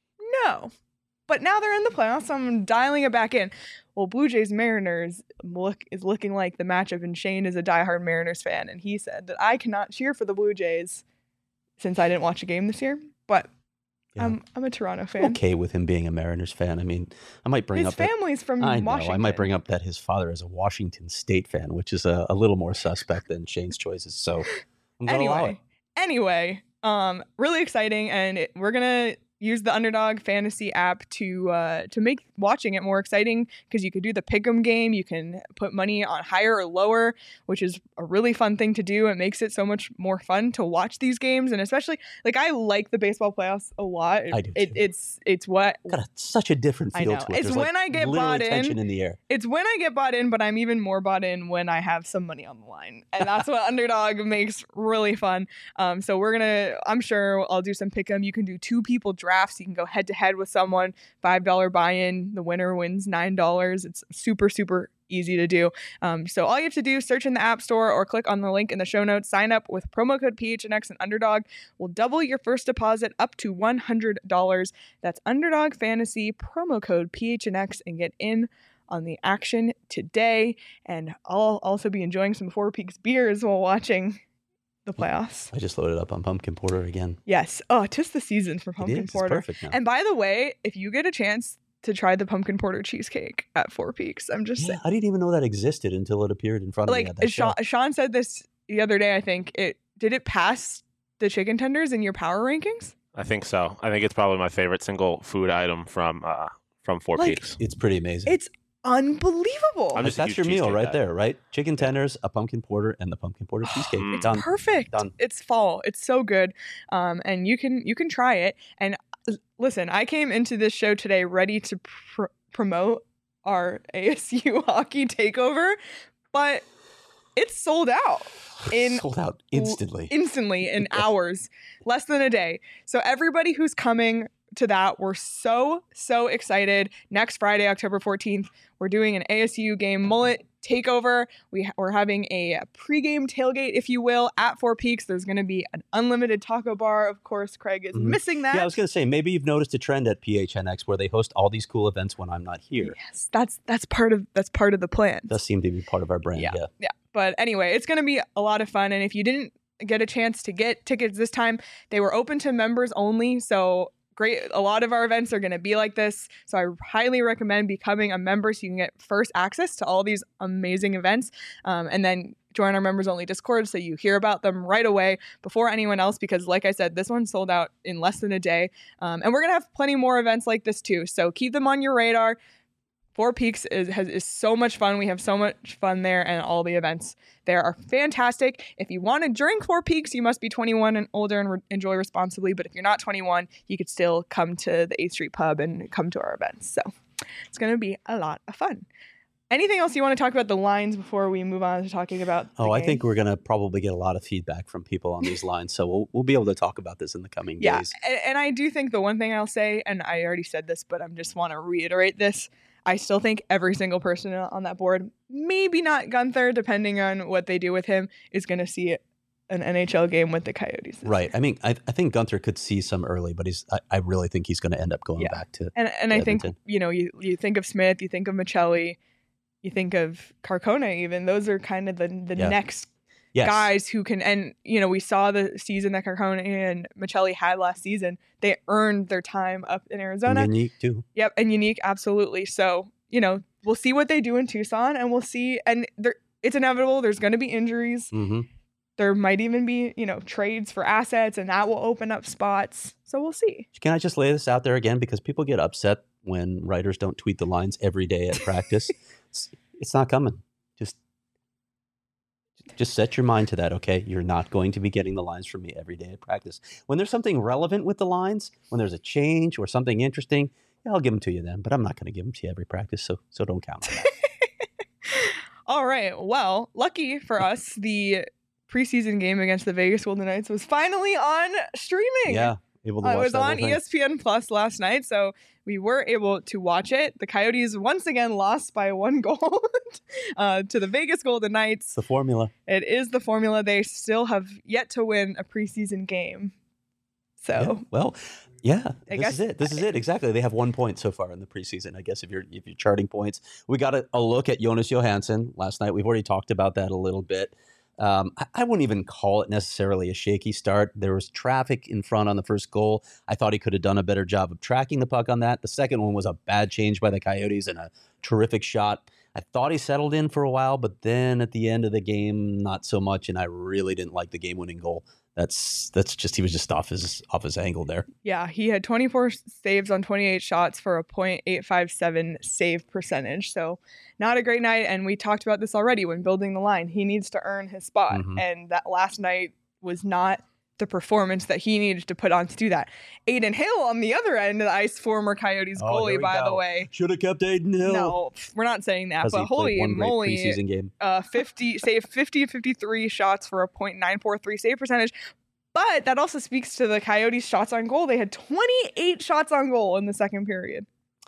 No. But now they're in the playoffs, so I'm dialing it back in. Well, Blue Jays Mariners look is looking like the matchup, and Shane is a diehard Mariners fan, and he said that I cannot cheer for the Blue Jays since I didn't watch a game this year. But yeah. I'm I'm a Toronto fan. I'm okay with him being a Mariners fan. I mean, I might bring his up his family's that, from I know, Washington. I might bring up that his father is a Washington State fan, which is a, a little more suspect than Shane's choices. So I'm gonna allow it. Anyway, anyway, um, really exciting, and it, we're gonna use the Underdog Fantasy app to uh, to make watching it more exciting because you could do the pick'em game. You can put money on higher or lower, which is a really fun thing to do. It makes it so much more fun to watch these games, and especially like I like the baseball playoffs a lot. It, I do it, too. it's it's what Got a, such a different I feel know. to it. It's There's when like I get literally bought in. tension in the air. It's when I get bought in, but I'm even more bought in when I have some money on the line. And that's what Underdog makes really fun. Um, so we're going to, I'm sure I'll do some pick'em. You can do two people drafts. You can go head to head with someone, five dollars buy-in. The winner wins nine dollars. It's super, super easy to do. Um, so all you have to do, search in the App Store or click on the link in the show notes, sign up with promo code P H N X and Underdog. We'll double your first deposit up to one hundred dollars. That's Underdog Fantasy, promo code P H N X, and get in on the action today. And I'll also be enjoying some Four Peaks beers while watching the playoffs. I just loaded up on pumpkin porter again. Yes. Oh, 'tis the season for pumpkin it is. porter. It's perfect now. And by the way, if you get a chance to try the pumpkin porter cheesecake at Four Peaks, I'm just Yeah, saying. I didn't even know that existed until it appeared in front of me Like at that Sean, show. Sean said this the other day, I think. It did it pass the chicken tenders in your power rankings? I think so. I think it's probably my favorite single food item from uh, from Four Like, Peaks. It's pretty amazing. It's unbelievable. I'm just a That's huge your meal cheesecake right guy. there, right? Chicken tenders, a pumpkin porter, and the pumpkin porter cheesecake. Mm. Done. Perfect. Done. It's fall. It's so good. Um, and you can you can try it. And l- listen, I came into this show today ready to pr- promote our A S U hockey takeover, but it's sold out in Sold out instantly. instantly in hours, less than a day. So everybody who's coming to that, we're so so excited. Next Friday, October fourteenth, we're doing an A S U game mullet takeover. We ha- we're having a pregame tailgate, if you will, at Four Peaks. There's going to be an unlimited taco bar. Of course, Craig is Mhm. missing that. Yeah, I was going to say, maybe you've noticed a trend at P H N X where they host all these cool events when I'm not here. Yes, that's that's part of that's part of the plan. Does seem to be part of our brand. Yeah. Yeah. Yeah. But anyway, it's going to be a lot of fun. And if you didn't get a chance to get tickets this time, they were open to members only. So great. A lot of our events are going to be like this. So I highly recommend becoming a member so you can get first access to all these amazing events. Um, and then join our members only Discord so you hear about them right away before anyone else. Because like I said, this one sold out in less than a day. Um, and we're going to have plenty more events like this too. So keep them on your radar. Four Peaks is has, is so much fun. We have so much fun there, and all the events there are fantastic. If you want to drink Four Peaks, you must be twenty-one and older and re- enjoy responsibly. But if you're not twenty-one, you could still come to the eighth Street Pub and come to our events. So it's going to be a lot of fun. Anything else you want to talk about the lines before we move on to talking about the Oh, I game? think we're going to probably get a lot of feedback from people on these lines. So we'll, we'll be able to talk about this in the coming Yeah, days. and, and I do think the one thing I'll say, and I already said this, but I just want to reiterate this. I still think every single person on that board, maybe not Gunther, depending on what they do with him, is going to see an N H L game with the Coyotes. this Right. year. I mean, I, I think Gunther could see some early, but he's. I, I really think he's going to end up going Yeah. back to. And and I think, Edmonton. you know, you, you think of Smith, you think of Michelli, you think of Carcona even. Those are kind of the, the Yeah. next Yes. guys who can, and, you know, we saw the season that Carcona and Michelli had last season. They earned their time up in Arizona. And unique too. Yep, and unique, absolutely. So, you know, we'll see what they do in Tucson, and we'll see. And there, it's inevitable. There's going to be injuries. Mm-hmm. There might even be, you know, trades for assets, and that will open up spots. So we'll see. Can I just lay this out there again? Because people get upset when writers don't tweet the lines every day at practice. it's, it's not coming. Just just set your mind to that, okay? You're not going to be getting the lines from me every day at practice. When there's something relevant with the lines, when there's a change or something interesting, yeah, I'll give them to you then. But I'm not going to give them to you every practice, so so don't count on that. All right. Well, lucky for us, the preseason game against the Vegas Golden Knights was finally on streaming. Yeah, able to Uh, watch it was that whole on thing. E S P N Plus last night, so we were able to watch it. The Coyotes once again lost by one goal uh, to the Vegas Golden Knights. It's the formula. It is the formula. They still have yet to win a preseason game. Yeah, So well, yeah, I this guess- is it. This is it. Exactly. They have one point so far in the preseason. I guess if you're if you're charting points, we got a, a look at Jonas Johansson last night. We've already talked about that a little bit. Um, I, I wouldn't even call it necessarily a shaky start. There was traffic in front on the first goal. I thought he could have done a better job of tracking the puck on that. The second one was a bad change by the Coyotes and a terrific shot. I thought he settled in for a while, but then at the end of the game, not so much. And I really didn't like the game-winning goal. That's that's just he was just off his off his angle there. yeah, he had twenty-four saves on twenty-eight shots for a point eight five seven save percentage. So not a great night. And we talked about this already when building the line. He needs to earn his spot. Mhm. And that last night was not the performance that he needed to put on to do that. Aiden Hill on the other end of the ice, former Coyotes Oh, here goalie, we by the go. way. Should have kept Aiden Hill. No, we're not saying that, Because but he played holy one great moly, preseason game. uh, fifty save fifty fifty-three shots for a point nine four three save percentage. But that also speaks to the Coyotes' shots on goal. They had twenty-eight shots on goal in the second period.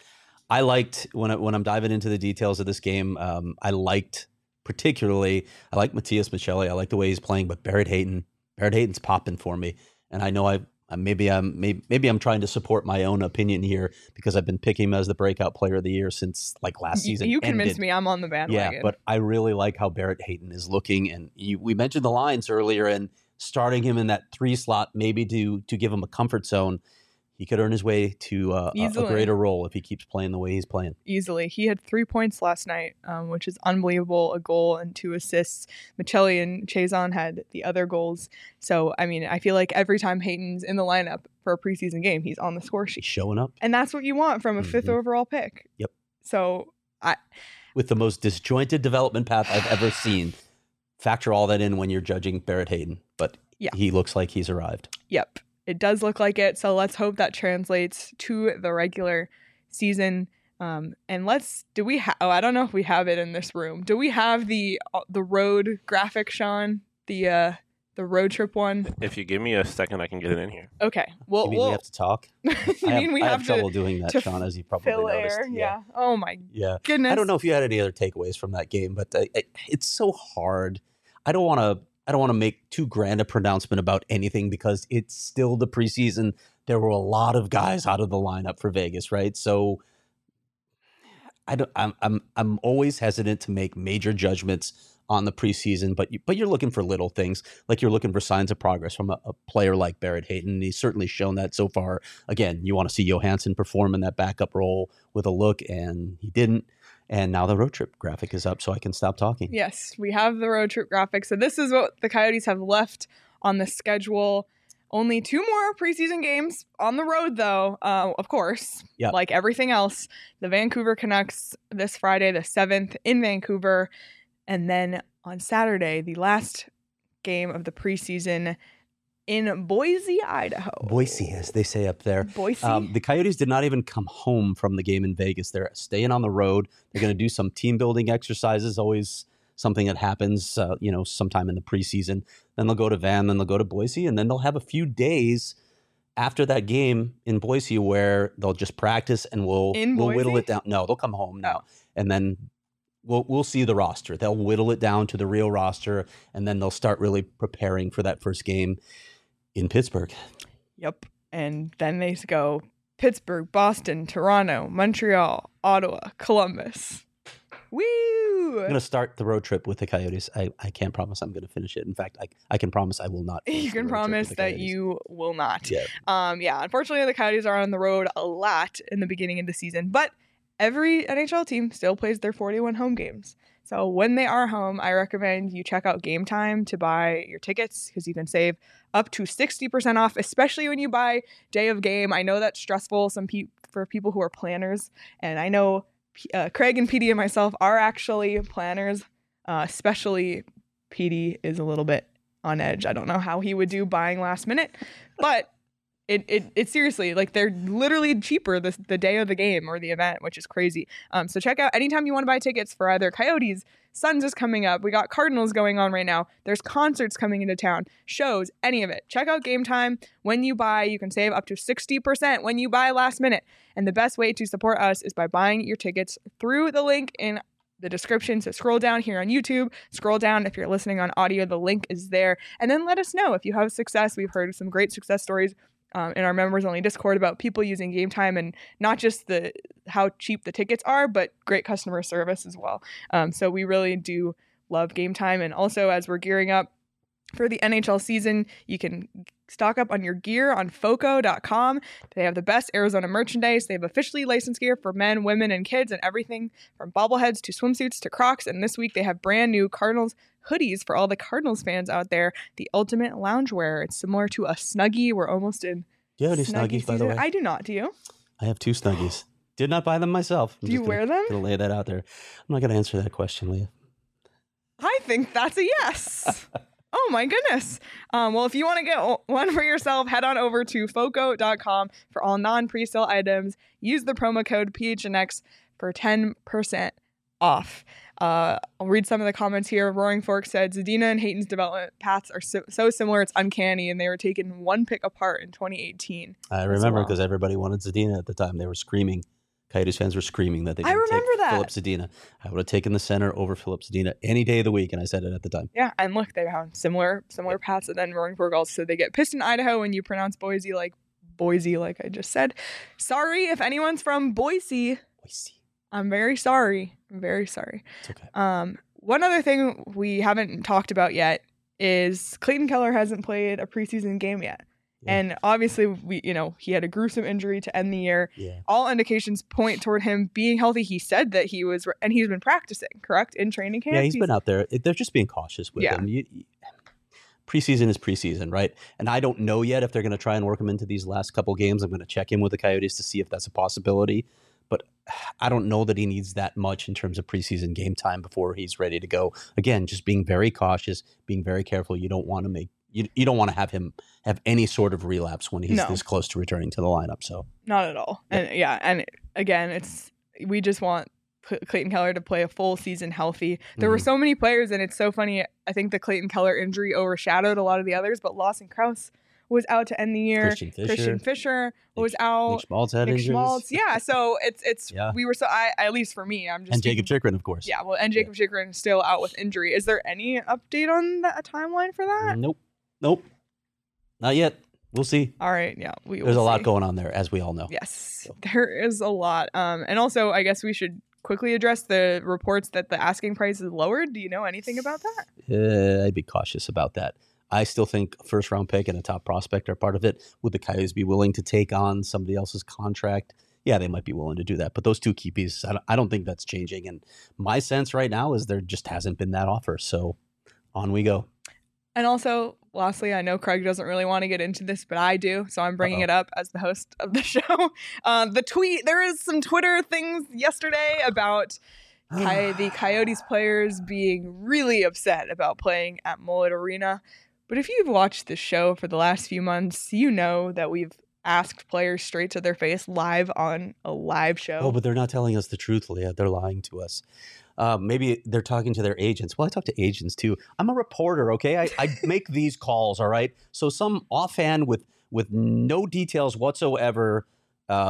I liked when I, when I'm diving into the details of this game. Um, I liked particularly. I like Matthias Michelli. I like the way he's playing. But Barrett Hayton, Barrett Hayton's popping for me. And I know I maybe I'm maybe, maybe I'm trying to support my own opinion here because I've been picking him as the breakout player of the year since like last Y- season. you convinced ended. me I'm on the bandwagon. Yeah, but I really like how Barrett Hayton is looking, and you, we mentioned the lines earlier, and starting him in that three slot maybe to to give him a comfort zone. He could earn his way to uh, a, a Easily. greater role if he keeps playing the way he's playing. Easily. He had three points last night, um, which is unbelievable. A goal and two assists. Michelli and Chazon had the other goals. So, I mean, I feel like every time Hayton's in the lineup for a preseason game, he's on the score He's sheet. showing up. And that's what you want from a fifth Mhm. overall pick. Yep. So I, with the most disjointed development path I've ever seen. Factor all that in when you're judging Barrett Hayton, but Yeah. he looks like he's arrived. Yep, it does look like it. So let's hope that translates to the regular season. Um, and let's do we have? Oh, I don't know if we have it in this room. Do we have the uh, the road graphic, Sean? The uh, the road trip one. If you give me a second, I can get it in here. Okay. Well, You mean we'll, we have to talk? you I mean we I have, have to trouble doing that, to Sean, as you probably fill noticed. air? Yeah. Oh my Yeah. goodness. I don't know if you had any other takeaways from that game, but uh, it, it's so hard. I don't want to. I don't want to make too grand a pronouncement about anything because it's still the preseason. There were a lot of guys out of the lineup for Vegas, right? So I don't. I'm. I'm. I'm always hesitant to make major judgments on the preseason, but you, but you're looking for little things, like you're looking for signs of progress from a, a player like Barrett Hayton. He's certainly shown that so far. Again, you want to see Johansson perform in that backup role with a look, and he didn't. And now the road trip graphic is up, so I can stop talking. Yes, we have the road trip graphic. So this is what the Coyotes have left on the schedule. Only two more preseason games on the road, though, uh, of course, Yep. like everything else. The Vancouver Canucks this Friday, the seventh in Vancouver. And then on Saturday, the last game of the preseason in Boise, Idaho. Boise, as they say up there. Boise? Um, the Coyotes did not even come home from the game in Vegas. They're staying on the road. They're going to do some team building exercises, always something that happens, uh, you know, sometime in the preseason. Then they'll go to Van, then they'll go to Boise, and then they'll have a few days after that game in Boise where they'll just practice and we'll, In we'll whittle Boise? it down. No, they'll come home now. And then we'll we'll see the roster. They'll whittle it down to the real roster, and then they'll start really preparing for that first game in Pittsburgh. Yep. And then they go Pittsburgh, Boston, Toronto, Montreal, Ottawa, Columbus. Woo! I'm going to start the road trip with the Coyotes. I, I can't promise I'm going to finish it. In fact, I, I can promise I will not. finish You the can road trip with promise the that Coyotes. you will not. Yeah. Um, yeah, unfortunately, the Coyotes are on the road a lot in the beginning of the season, but every N H L team still plays their forty-one home games. So when they are home, I recommend you check out Game Time to buy your tickets because you can save up to sixty percent off, especially when you buy day of game. I know that's stressful some pe- for people who are planners, and I know uh, Craig and P D and myself are actually planners, uh, especially P D is a little bit on edge. I don't know how he would do buying last minute, but It, it it seriously, like, they're literally cheaper the, the day of the game or the event, which is crazy. Um, so check out anytime you want to buy tickets for either Coyotes, Suns is coming up. We got Cardinals going on right now. There's concerts coming into town, shows, any of it. Check out Game Time. When you buy, you can save up to sixty percent when you buy last minute. And the best way to support us is by buying your tickets through the link in the description. So scroll down here on YouTube, scroll down if you're listening on audio, the link is there. And then let us know if you have success. We've heard some great success stories Um, in our members only Discord about people using Game Time, and not just the how cheap the tickets are, but great customer service as well. Um, so we really do love Game Time. And also, as we're gearing up for the N H L season, you can stock up on your gear on foco dot com. They have the best Arizona merchandise. They have officially licensed gear for men, women, and kids, and everything from bobbleheads to swimsuits to Crocs. And this week they have brand new Cardinals hoodies for all the Cardinals fans out there. The ultimate loungewear. It's similar to a Snuggie. We're almost in Do you have any Snuggie Snuggies, by the season. way? I do not. Do you? I have two Snuggies. Did not buy them myself. I'm Do you just wear gonna, them? Gonna lay that out there. I'm not going to answer that question, Leah. I think that's a yes. Oh my goodness. Um, well, if you want to get one for yourself, head on over to foco dot com for all non-presale items. Use the promo code P H N X for ten percent off. Uh, I'll read some of the comments here. Roaring Fork said, Zadina and Hayton's development paths are so, so similar, it's uncanny, and they were taken one pick apart in twenty eighteen. I remember well. because everybody wanted Zadina at the time. They were screaming. Coyotes fans were screaming that they I didn't remember take that. Philip Zadina. I would have taken the center over Philip Zadina any day of the week, and I said it at the time. Yeah, and look, they have similar similar paths, and then Roaring Fork also said they get Piston, Idaho, and you pronounce Boise like Boise, like I just said. Sorry if anyone's from Boise. Boise. I'm very sorry. I'm very sorry. It's okay. Um, one other thing we haven't talked about yet is Clayton Keller hasn't played a preseason game yet. Yeah. And obviously, we you know, he had a gruesome injury to end the year. Yeah. All indications point toward him being healthy. He said that he was, and he's been practicing, correct, in training camp? Yeah, he's been out there. It- They're just being cautious with Yeah. him. You, you- preseason is preseason, right? And I don't know yet if they're going to try and work him into these last couple games. I'm going to check in with the Coyotes to see if that's a possibility. But I don't know that he needs that much in terms of preseason game time before he's ready to go. Again, just being very cautious, being very careful. You don't want to make you, you don't want to have him have any sort of relapse when he's No. this close to returning to the lineup. So Not at all. Yeah. And yeah, and again, it's we just want P- Clayton Keller to play a full season healthy. There were Mhm. so many players, and it's so funny. I think the Clayton Keller injury overshadowed a lot of the others, but Lawson Krause was out to end the year. Christian Fisher, Christian Fisher was Nick- out. Nick Schmaltz had Nick injuries. Schmaltz. Yeah, so it's it's Yeah. we were so I at least for me, I'm just and Jacob speaking- Chikrin, of course. Yeah, well, and Jacob Chikrin is still out with injury. Is there any update on that timeline for that? Nope. Nope. Not yet. We'll see. All right, yeah, we There's will a lot see. going on there, as we all know. Yes, there is a lot. Um, and also, I guess we should quickly address the reports that the asking price is lowered. Do you know anything about that? Uh, I'd be cautious about that. I still think a first round pick and a top prospect are part of it. Would the Coyotes be willing to take on somebody else's contract? Yeah, they might be willing to do that. But those two key pieces, I don't, I don't think that's changing. And my sense right now is there just hasn't been that offer. So on we go. And also, lastly, I know Craig doesn't really want to get into this, but I do, so I'm bringing Uh-oh. it up as the host of the show. Uh, the tweet, there is some Twitter things yesterday about Coy- the Coyotes players being really upset about playing at Mullet Arena. But if you've watched this show for the last few months, you know that we've asked players straight to their face live on a live show. Oh, but they're not telling us the truth, Leah. They're lying to us. Uh, maybe they're talking to their agents. Well, I talk to agents too. I'm a reporter, okay? I, I make these calls, all right? So some offhand with with no details whatsoever. Uh,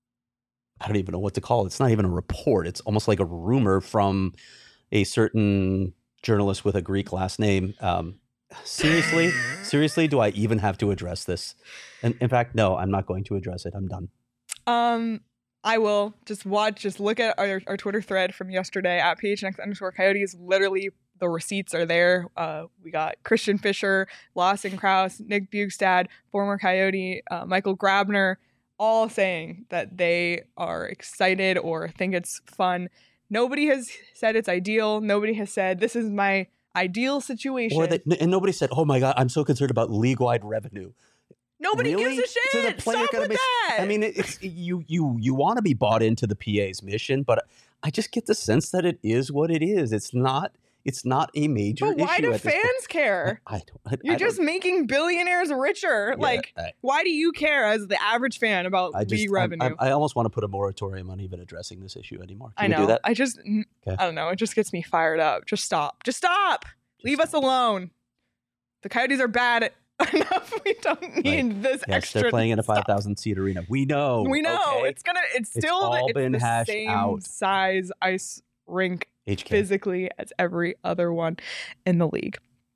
I don't even know what to call it. It's not even a report. It's almost like a rumor from a certain journalist with a Greek last name. Um, seriously, seriously, do I even have to address this? And in fact, no, I'm not going to address it. I'm done. Um, I will just watch, just look at our, our Twitter thread from yesterday at P H N X underscore Coyotes. Literally, the receipts are there. Uh, we got Christian Fisher, Lawson Krause, Nick Bugstad, former Coyote, uh, Michael Grabner, all saying that they are excited or think it's fun. Nobody has said it's ideal. Nobody has said this is my ideal situation. Or that, and nobody said, "Oh my God, I'm so concerned about league-wide revenue." Nobody Really? gives a shit. So the player Stop gotta with be- that. I mean, it's you you you want to be bought into the P A's mission, but I just get the sense that it is what it is. It's not. It's not a major but why issue do at this point. fans care? I don't. I, You're I just don't, making billionaires richer. yeah, like, I, why do you care as the average fan about I just league I, revenue? I, I almost want to put a moratorium on even addressing this issue anymore. Can I we know. do that? I just, Okay. I don't know. It just gets me fired up. Just stop. Just stop. Leave us alone. The Coyotes are bad at enough. We don't need this Yes, extra. they're playing in a stuff. five thousand seat arena. We know. We know okay? it's gonna. It's It's still all it's been the hashed same out. size ice rink H K. physically as every other one in the league.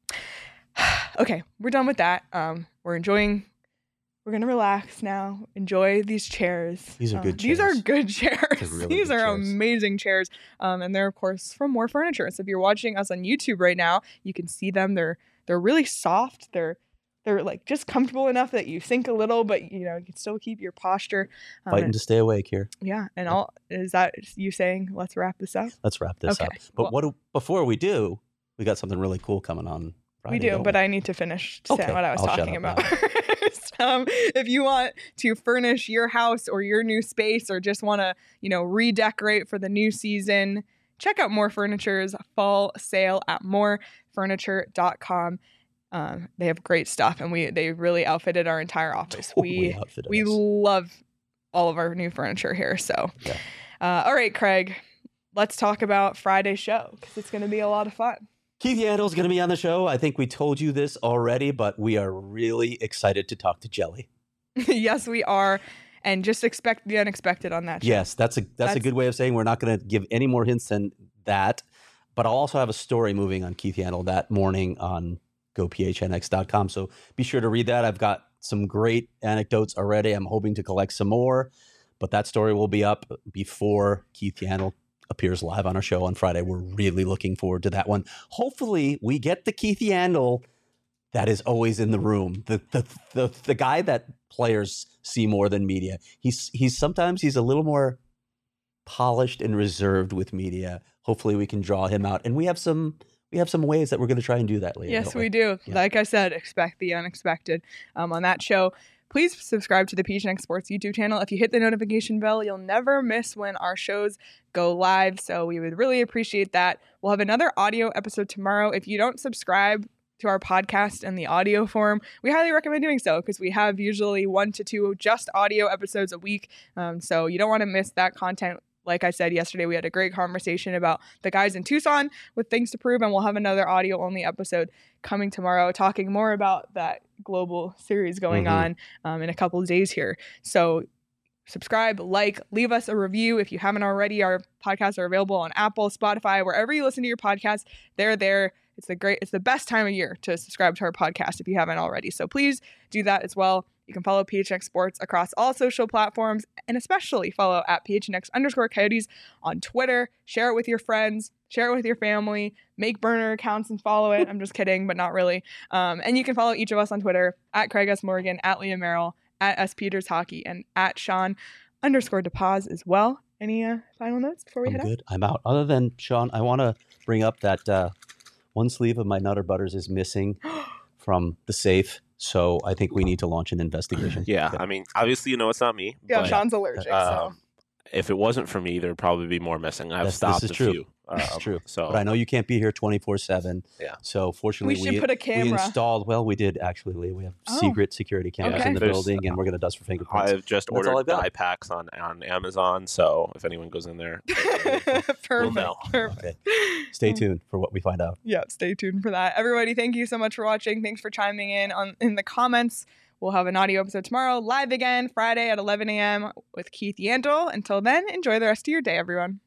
Okay, we're done with that. Um, we're enjoying. We're gonna relax now. Enjoy these chairs. These are Uh, good These are chairs. good chairs. They're really these good are chairs. amazing chairs. Um, and they're of course from More Furniture. So if you're watching us on YouTube right now, you can see them. They're they're really soft. They're they're like just comfortable enough that you sink a little, but you know you can still keep your posture. Um, Fighting and- to stay awake here. yeah, and all is that you saying? Let's wrap this up. Let's wrap this Okay, up. But well- what do, before we do, we got something really cool coming on Friday. We do, don't but I need to finish saying Okay, what I was I'll shut talking up about. um, if you want to furnish your house or your new space, or just want to, you know, redecorate for the new season, check out More Furniture's fall sale at more furniture dot com. Um, they have great stuff, and we they really outfitted our entire office. Totally we outfitted we us. love all of our new furniture here. So, Yeah. uh, all right, Craig, let's talk about Friday's show because it's going to be a lot of fun. Keith Yandle's going to be on the show. I think we told you this already, but we are really excited to talk to Jelly. Yes, we are. And just expect the unexpected on that show. Yes, that's a that's, a That's- good way of saying we're not going to give any more hints than that. But I'll also have a story moving on Keith Yandle that morning on go P H N X dot com. So be sure to read that. I've got some great anecdotes already. I'm hoping to collect some more, but that story will be up before Keith Yandle appears live on our show on Friday. We're really looking forward to that one. Hopefully we get the Keith Yandle that is always in the room. The the the, the guy that players see more than media. He's he's sometimes he's a little more polished and reserved with media. Hopefully we can draw him out. And we have some we have some ways that we're going to try and do that later. Yes, don't we do. Yeah. Like I said, expect the unexpected um, on that show. please subscribe to the P H N X Sports YouTube channel. If you hit the notification bell, you'll never miss when our shows go live. So we would really appreciate that. We'll have another audio episode tomorrow. If you don't subscribe to our podcast in the audio form, we highly recommend doing so because we have usually one to two just audio episodes a week. Um, so you don't want to miss that content. Like I said yesterday, we had a great conversation about the guys in Tucson with things to prove, and we'll have another audio-only episode coming tomorrow talking more about that global series going Mm-hmm. on um, in a couple of days here. So subscribe, like, leave us a review if you haven't already. Our podcasts are available on Apple, Spotify, wherever you listen to your podcasts. They're there. It's the great. It's the best time of year to subscribe to our podcast if you haven't already. So please do that as well. You can follow P H N X Sports across all social platforms, and especially follow at P H N X underscore Coyotes on Twitter. Share it with your friends. Share it with your family. Make burner accounts and follow it. I'm just kidding, but not really. Um, and you can follow each of us on Twitter at Craig S. Morgan, at Leah Merrill, at S. Peters Hockey, and at Sean underscore DePaz as well. Any uh, final notes before we I'm head out? good. I'm out. Other than, Sean, I want to bring up that uh, one sleeve of my Nutter Butters is missing from the safe. So I think we need to launch an investigation. Yeah, I mean, obviously, you know it's not me. Yeah, but, Sean's allergic. so. um, if it wasn't for me, there'd probably be more missing. I've That's- this stopped is a true. few. This is um, true. So But I know you can't be here twenty-four seven. Yeah. So fortunately, We should put a we camera. installed, well, we did actually, Lee. We have Oh. secret security cameras Okay. in the There's- building, and we're going to dust for fingerprints. I've just That's all ordered I've got. dye packs on, on Amazon. So if anyone goes in there, Perfect. know. Perfect. Okay. Stay tuned for what we find out. Yeah, stay tuned for that. Everybody, thank you so much for watching. Thanks for chiming in on in the comments. We'll have an audio episode tomorrow, live again Friday at eleven a.m. with Keith Yandel. Until then, enjoy the rest of your day, everyone.